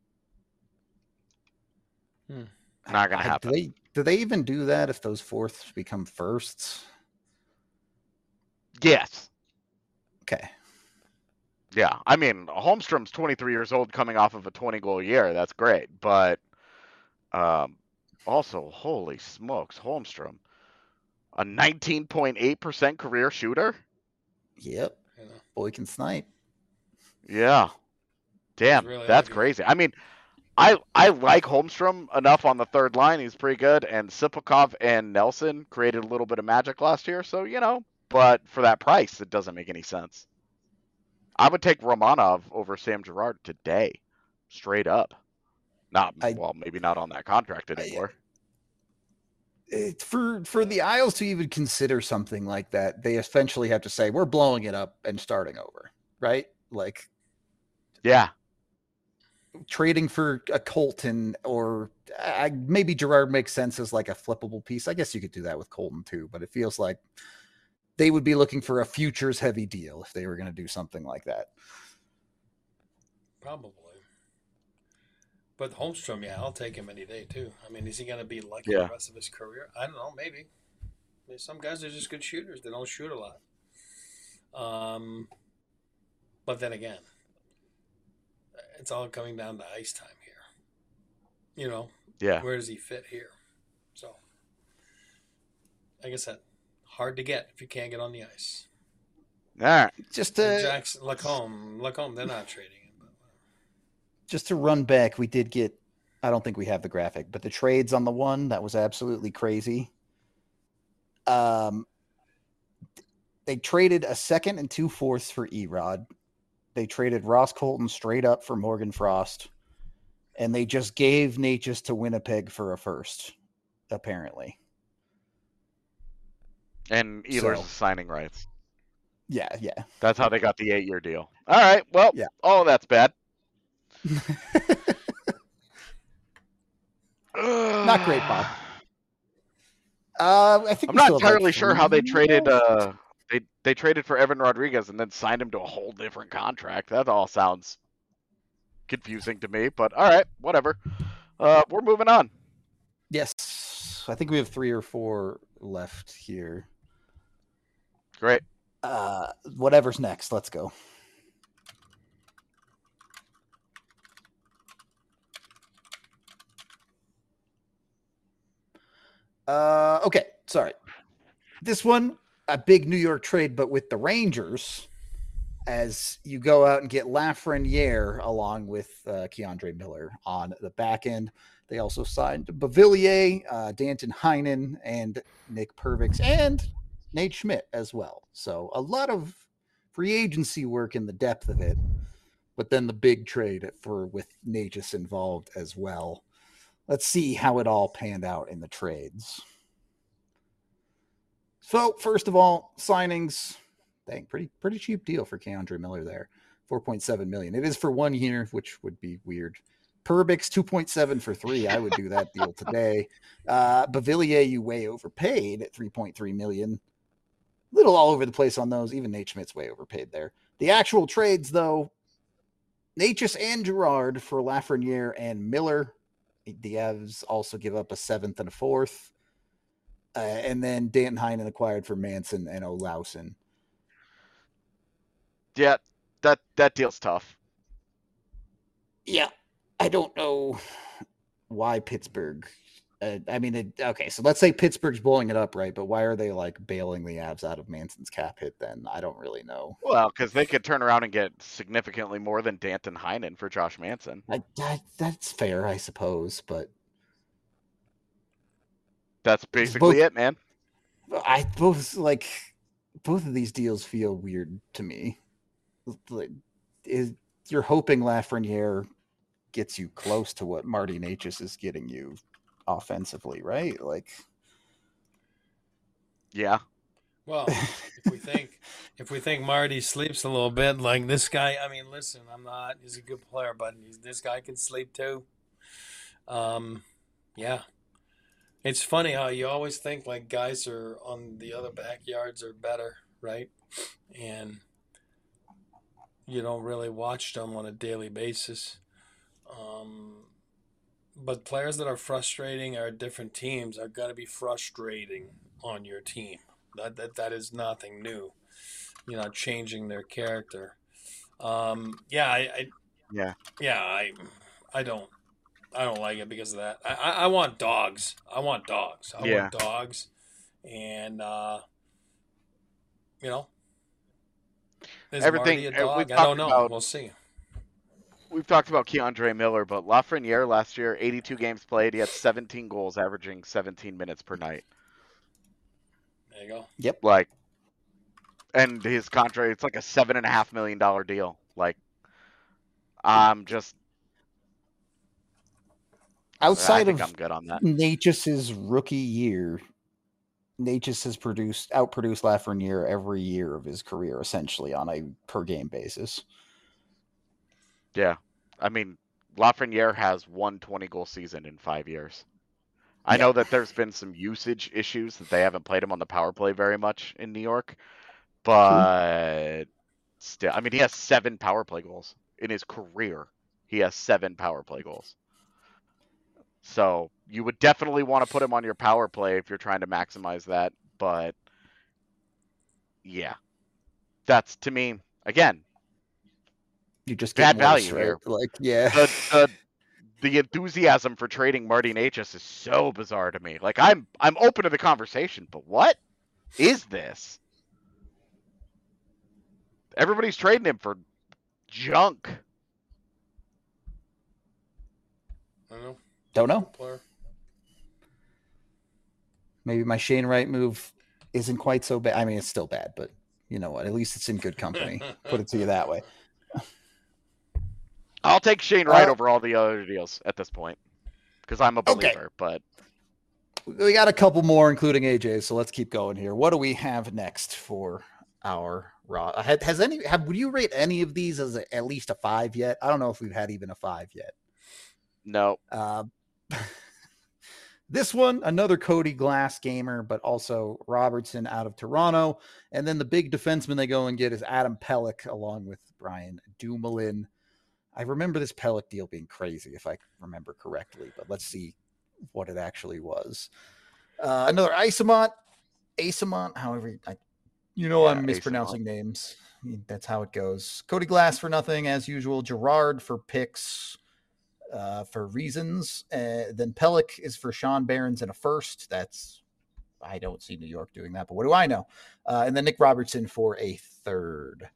not gonna happen. Do they even do that if those fourths become firsts? Yes. Okay. Yeah, I mean, Holmstrom's 23 years old, coming off of a 20-goal year. That's great, but also, holy smokes, Holmstrom, a 19.8% career shooter. Yep. Boy can snipe. Yeah. Damn, really that's crazy. I mean, I like Holmstrom enough on the third line. He's pretty good. And Siplikov and Nelson created a little bit of magic last year. So, but for that price, it doesn't make any sense. I would take Romanov over Sam Girard today. Straight up. Maybe not on that contract anymore. For the Isles to even consider something like that, they essentially have to say, we're blowing it up and starting over, right? Like, yeah. Trading for a Colton or maybe Girard makes sense as like a flippable piece. I guess you could do that with Colton too, but it feels like they would be looking for a futures heavy deal if they were going to do something like that. Probably. But Holmstrom, I'll take him any day too. I mean, is he going to be lucky the rest of his career? I don't know, maybe. I mean, some guys are just good shooters. They don't shoot a lot. But then again, it's all coming down to ice time here. Yeah. Where does he fit here? So, like I said, hard to get if you can't get on the ice. All right. Jackson, Lacombe, they're not trading him. Just to run back, we did get, I don't think we have the graphic, but the trades on the one, that was absolutely crazy. They traded a second and 2/4 for Erod. They traded Ross Colton straight up for Morgan Frost. And they just gave Natchez to Winnipeg for a first, apparently. And Ehlers' signing rights. Yeah. That's how they got the 8-year deal. All right, well, that's bad. Not great, Bob. I think I'm not entirely sure how they traded. They traded for Evan Rodriguez and then signed him to a whole different contract. That all sounds confusing to me, but all right, whatever. We're moving on. Yes, I think we have 3 or 4 left here. Great. Whatever's next, let's go. Okay, sorry. This one, a big New York trade, but with the Rangers, as you go out and get Lafreniere along with Keandre Miller on the back end. They also signed Bavillier, Danton Heinen, and Nick Pervix, and Nate Schmidt as well. So a lot of free agency work in the depth of it, but then the big trade with Natchez involved as well. Let's see how it all panned out in the trades. So first of all, signings. Dang, pretty cheap deal for Keandre Miller there. $4.7 million. It is for 1 year, which would be weird. Perbix 2.7 for 3. I would do that deal today. Bavillier, you way overpaid at $3.3 million. little all over the place on those. Even Nate Schmidt's way overpaid there. The actual trades, though, Natchez and Girard for Lafreniere and Miller. The Avs also give up a 7th and a 4th. And then Danton Heinen acquired for Manson and Olausen. Yeah, that deal's tough. Yeah, I don't know why Pittsburgh. Okay, so let's say Pittsburgh's blowing it up, right? But why are they like bailing the Avs out of Manson's cap hit then? I don't really know. Well, because they could turn around and get significantly more than Danton Heinen for Josh Manson. That's fair, I suppose, but that's basically it, man. Both of these deals feel weird to me. You're hoping Lafreniere gets you close to what Marty Natchez is getting you offensively, right? Like, yeah. Well, if we think Marty sleeps a little bit, like this guy, I mean, listen, he's a good player, but this guy can sleep too. Yeah. It's funny how you always think like guys are on the other backyards are better, right? And you don't really watch them on a daily basis. But players that are frustrating are different teams are going to be frustrating on your team. That is nothing new. You're not changing their character. I don't like it because of that. I want dogs. I want dogs. And is everything. Marty a dog? I don't know. We'll see. We've talked about Keandre Miller, but Lafreniere last year, 82 games played. He had 17 goals, averaging 17 minutes per night. There you go. Yep. And his contract, it's like a $7.5 million deal. I'm just outside I'm good on that. Natchez's rookie year. Natchez has outproduced Lafreniere every year of his career, essentially on a per game basis. Yeah. I mean, Lafreniere has one 20-goal season in 5 years. I know that there's been some usage issues that they haven't played him on the power play very much in New York, but still, I mean, he has 7 power play goals in his career. He has 7 power play goals. So you would definitely want to put him on your power play if you're trying to maximize that. But yeah, that's, to me, again, you just bad value right? here. Like, yeah. The enthusiasm for trading Marty Natchez is so bizarre to me. Like, I'm open to the conversation, but what is this? Everybody's trading him for junk. Don't know. Maybe my Shane Wright move isn't quite so bad. I mean, it's still bad, but you know what? At least it's in good company. Put it to you that way. I'll take Shane Wright over all the other deals at this point because I'm a believer. Okay. But we got a couple more, including AJ. So let's keep going here. What do we have next for our raw? Would you rate any of these as at least a 5 yet? I don't know if we've had even a 5 yet. No. This one, another Cody Glass gamer, but also Robertson out of Toronto. And then the big defenseman they go and get is Adam Pelech along with Brian Dumoulin. I remember this Pelech deal being crazy, if I remember correctly, but let's see what it actually was. Another Asamont, however, I'm mispronouncing names. I mean, that's how it goes. Cody Glass for nothing, as usual. Girard for picks for reasons. Then Pelech is for Sean Behrens and a first. I don't see New York doing that, but what do I know? And then Nick Robertson for a third.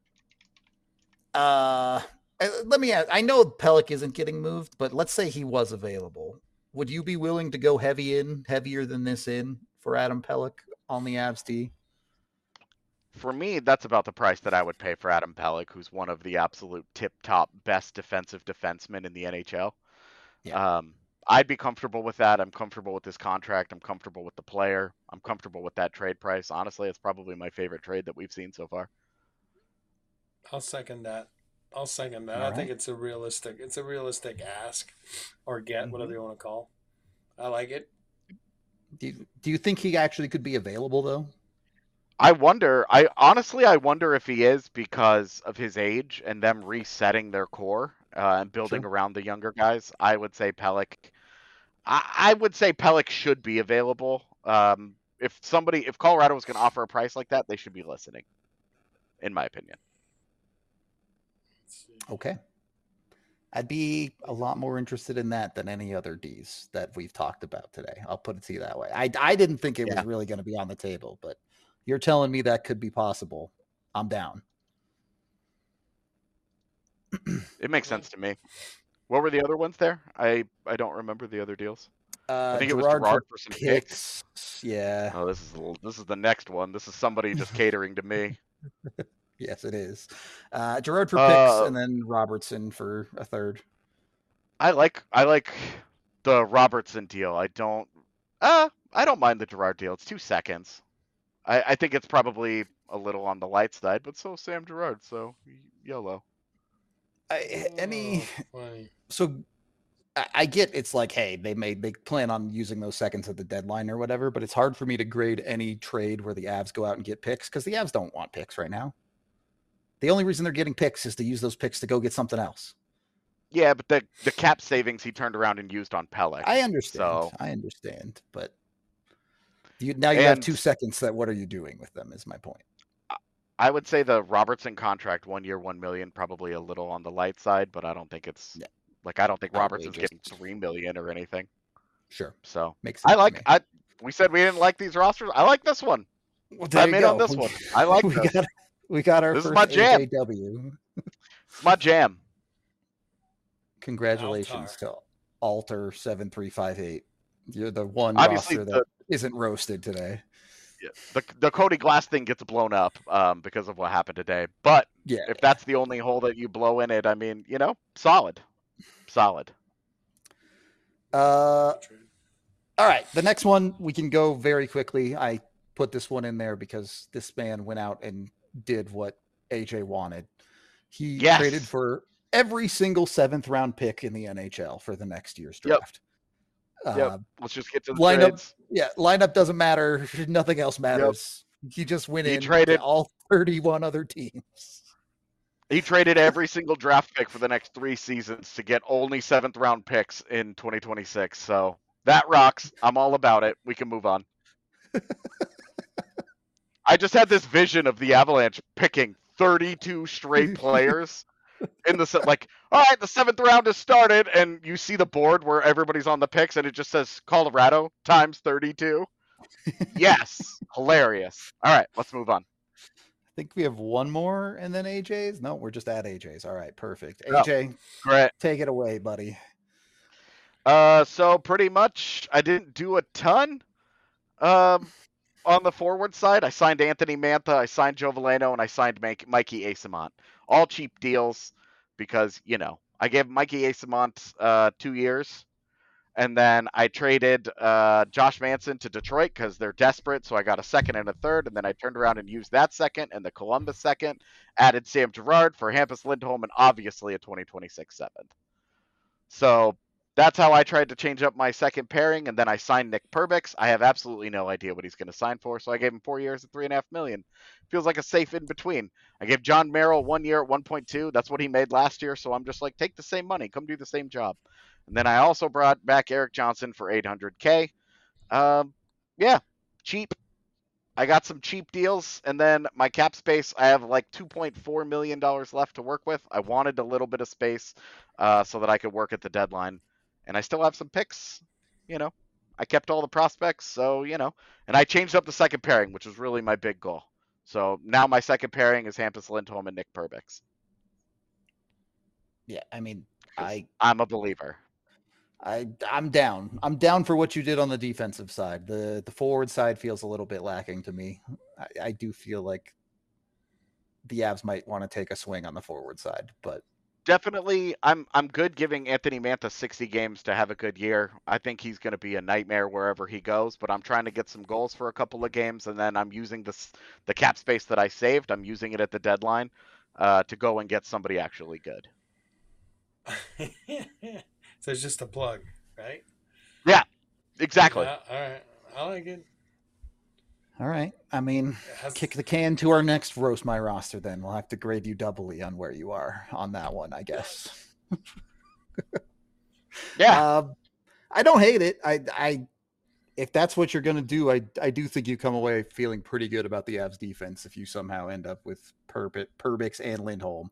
Let me ask, I know Pelech isn't getting moved, but let's say he was available. Would you be willing to go heavier than this in for Adam Pelech on the Avs D? For me, that's about the price that I would pay for Adam Pelech, who's one of the absolute tip-top best defensive defensemen in the NHL. Yeah. I'd be comfortable with that. I'm comfortable with this contract. I'm comfortable with the player. I'm comfortable with that trade price. Honestly, it's probably my favorite trade that we've seen so far. I'll second that. All I think it's a realistic ask or get, whatever you want to call. I like it. Do you think he actually could be available though? I wonder. I honestly, I wonder if he is because of his age and them resetting their core and building Sure. around the younger guys. I would say Pellick. I would say Pellick should be available. If Colorado was going to offer a price like that, they should be listening, in my opinion. Okay. I'd be a lot more interested in that than any other Ds that we've talked about today. I'll put it to you that way. I didn't think it was really going to be on the table, but you're telling me that could be possible. I'm down. It makes sense to me. What were the other ones there? I don't remember the other deals. I think it was Gerard for some picks. Yeah. Oh, this is the next one. This is somebody just catering to me. Yes, it is. Gerard for picks, and then Robertson for a third. I like the Robertson deal. I don't mind the Gerard deal. It's 2 seconds. I think it's probably a little on the light side, but so Sam Gerard, so YOLO. So I get it's like, hey, they plan on using those seconds at the deadline or whatever, but it's hard for me to grade any trade where the Avs go out and get picks because the Avs don't want picks right now. The only reason they're getting picks is to use those picks to go get something else. Yeah, but the cap savings he turned around and used on Pellick. I understand, but you have 2 seconds. That what are you doing with them? Is my point. I would say the Robertson contract, 1 year, $1 million, probably a little on the light side, but I don't think it's I don't think Robertson's getting $3 million or anything. Sure, so makes sense. We said we didn't like these rosters. I like this one. Well, I'm in on this one. I like this. We got our this first is my jam. AJW. It's my jam. Congratulations to Alter 7358. You're the one Obviously roster that isn't roasted today. Yeah, the Cody Glass thing gets blown up because of what happened today. But if that's the only hole that you blow in it, I mean, solid. All right, the next one we can go very quickly. I put this one in there because this man went out and did what AJ wanted. He traded for every single 7th round pick in the NHL for the next year's draft. Let's just get to the lineup. Trades. Yeah, lineup doesn't matter. Nothing else matters. He just went in traded all 31 other teams. He traded every single draft pick for the next 3 seasons to get only 7th round picks in 2026. So that rocks. I'm all about it. We can move on. I just had this vision of the Avalanche picking 32 straight players in the all right, the 7th round has started, and you see the board where everybody's on the picks, and it just says Colorado times 32. Yes, hilarious. All right, let's move on. I think we have one more and then AJ's. No, we're just at AJ's. All right, perfect. AJ, great. Take it away, buddy. So pretty much I didn't do a ton on the forward side. I signed Anthony Mantha, I signed Joe Veleno, and I signed Mikey Eyssimont. All cheap deals because, I gave Mikey Eyssimont 2 years. And then I traded Josh Manson to Detroit because they're desperate. So I got a 2nd and a 3rd. And then I turned around and used that 2nd and the Columbus 2nd. Added Sam Girard for Hampus Lindholm and obviously a 2026 7th. So that's how I tried to change up my second pairing. And then I signed Nick Perbix. I have absolutely no idea what he's going to sign for. So I gave him 4 years at $3.5 million. Feels like a safe in between. I gave John Merrill 1 year at 1.2. That's what he made last year. So I'm just like, take the same money. Come do the same job. And then I also brought back Erik Johnson for $800K. Cheap. I got some cheap deals. And then my cap space, I have like $2.4 million left to work with. I wanted a little bit of space so that I could work at the deadline. And I still have some picks. I kept all the prospects. So, and I changed up the second pairing, which was really my big goal. So now my second pairing is Hampus Lindholm and Nick Perbix. Yeah, I mean, I'm a believer. I'm down. I'm down for what you did on the defensive side. The forward side feels a little bit lacking to me. I do feel like the Avs might want to take a swing on the forward side, but definitely I'm good giving Anthony Mantha 60 games to have a good year. I think he's going to be a nightmare wherever he goes, but I'm trying to get some goals for a couple of games, and then I'm using the cap space that I saved. I'm using it at the deadline to go and get somebody actually good. So it's just a plug, right? Yeah, exactly. Yeah, all right. I like it. All right. I mean, kick the can to our next Roast My Roster then. We'll have to grade you doubly on where you are on that one, I guess. Yeah. I don't hate it. I if that's what you're going to do, I do think you come away feeling pretty good about the Avs defense if you somehow end up with Perbix and Lindholm.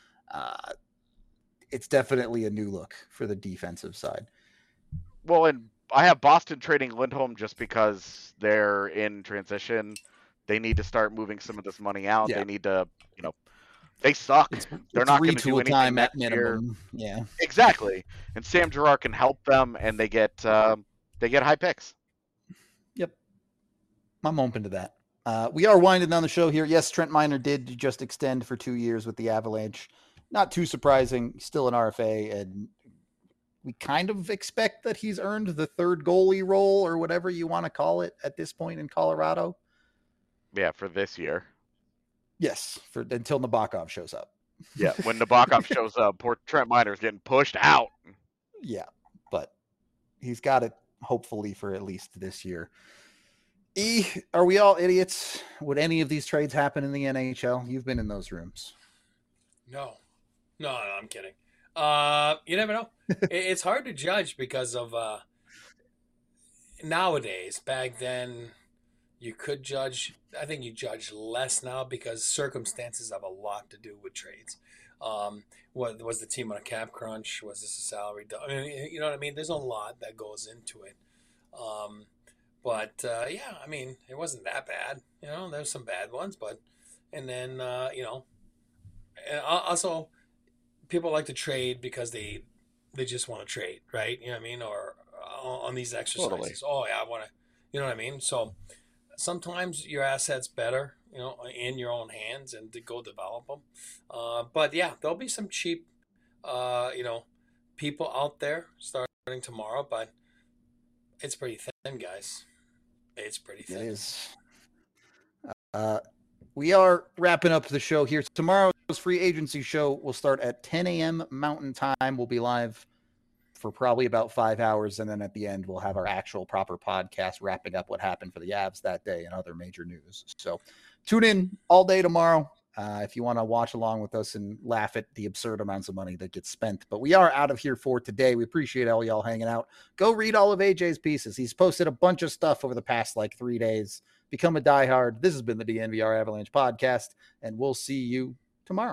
It's definitely a new look for the defensive side. Well, and I have Boston trading Lindholm just because they're in transition. They need to start moving some of this money out. Yeah. They need to, they suck. They're not going to do anything next year. Yeah, exactly. And Sam Girard can help them, and they get high picks. Yep, I'm open to that. We are winding down the show here. Yes, Trent Miner did just extend for 2 years with the Avalanche. Not too surprising. Still an RFA, and we kind of expect that he's earned the third goalie role or whatever you want to call it at this point in Colorado. Yeah, for this year. Yes, until Nabokov shows up. Yeah, when Nabokov shows up, poor Trent Miner's getting pushed out. Yeah, but he's got it hopefully for at least this year. Are we all idiots? Would any of these trades happen in the NHL? You've been in those rooms. No, I'm kidding. You never know. It's hard to judge because of nowadays. Back then, you could judge. I think you judge less now because circumstances have a lot to do with trades. What was the team on a cap crunch? Was this a salary? I mean, you know what I mean? There's a lot that goes into it. But yeah, I mean, it wasn't that bad. There's some bad ones, but and then and also people like to trade because they just want to trade, right? You know what I mean? Or on these exercises. Totally. Oh yeah, I want to. You know what I mean? So sometimes your assets better, in your own hands and to go develop them. But yeah, there'll be some cheap, people out there starting tomorrow, but it's pretty thin, guys. It's pretty thin. It is. We are wrapping up the show here. Tomorrow's free agency show will start at 10 a.m. Mountain Time. We'll be live for probably about 5 hours. And then at the end, we'll have our actual proper podcast wrapping up what happened for the Avs that day and other major news. So tune in all day tomorrow if you want to watch along with us and laugh at the absurd amounts of money that gets spent. But we are out of here for today. We appreciate all y'all hanging out. Go read all of AJ's pieces. He's posted a bunch of stuff over the past 3 days. Become a diehard. This has been the DNVR Avalanche podcast, and we'll see you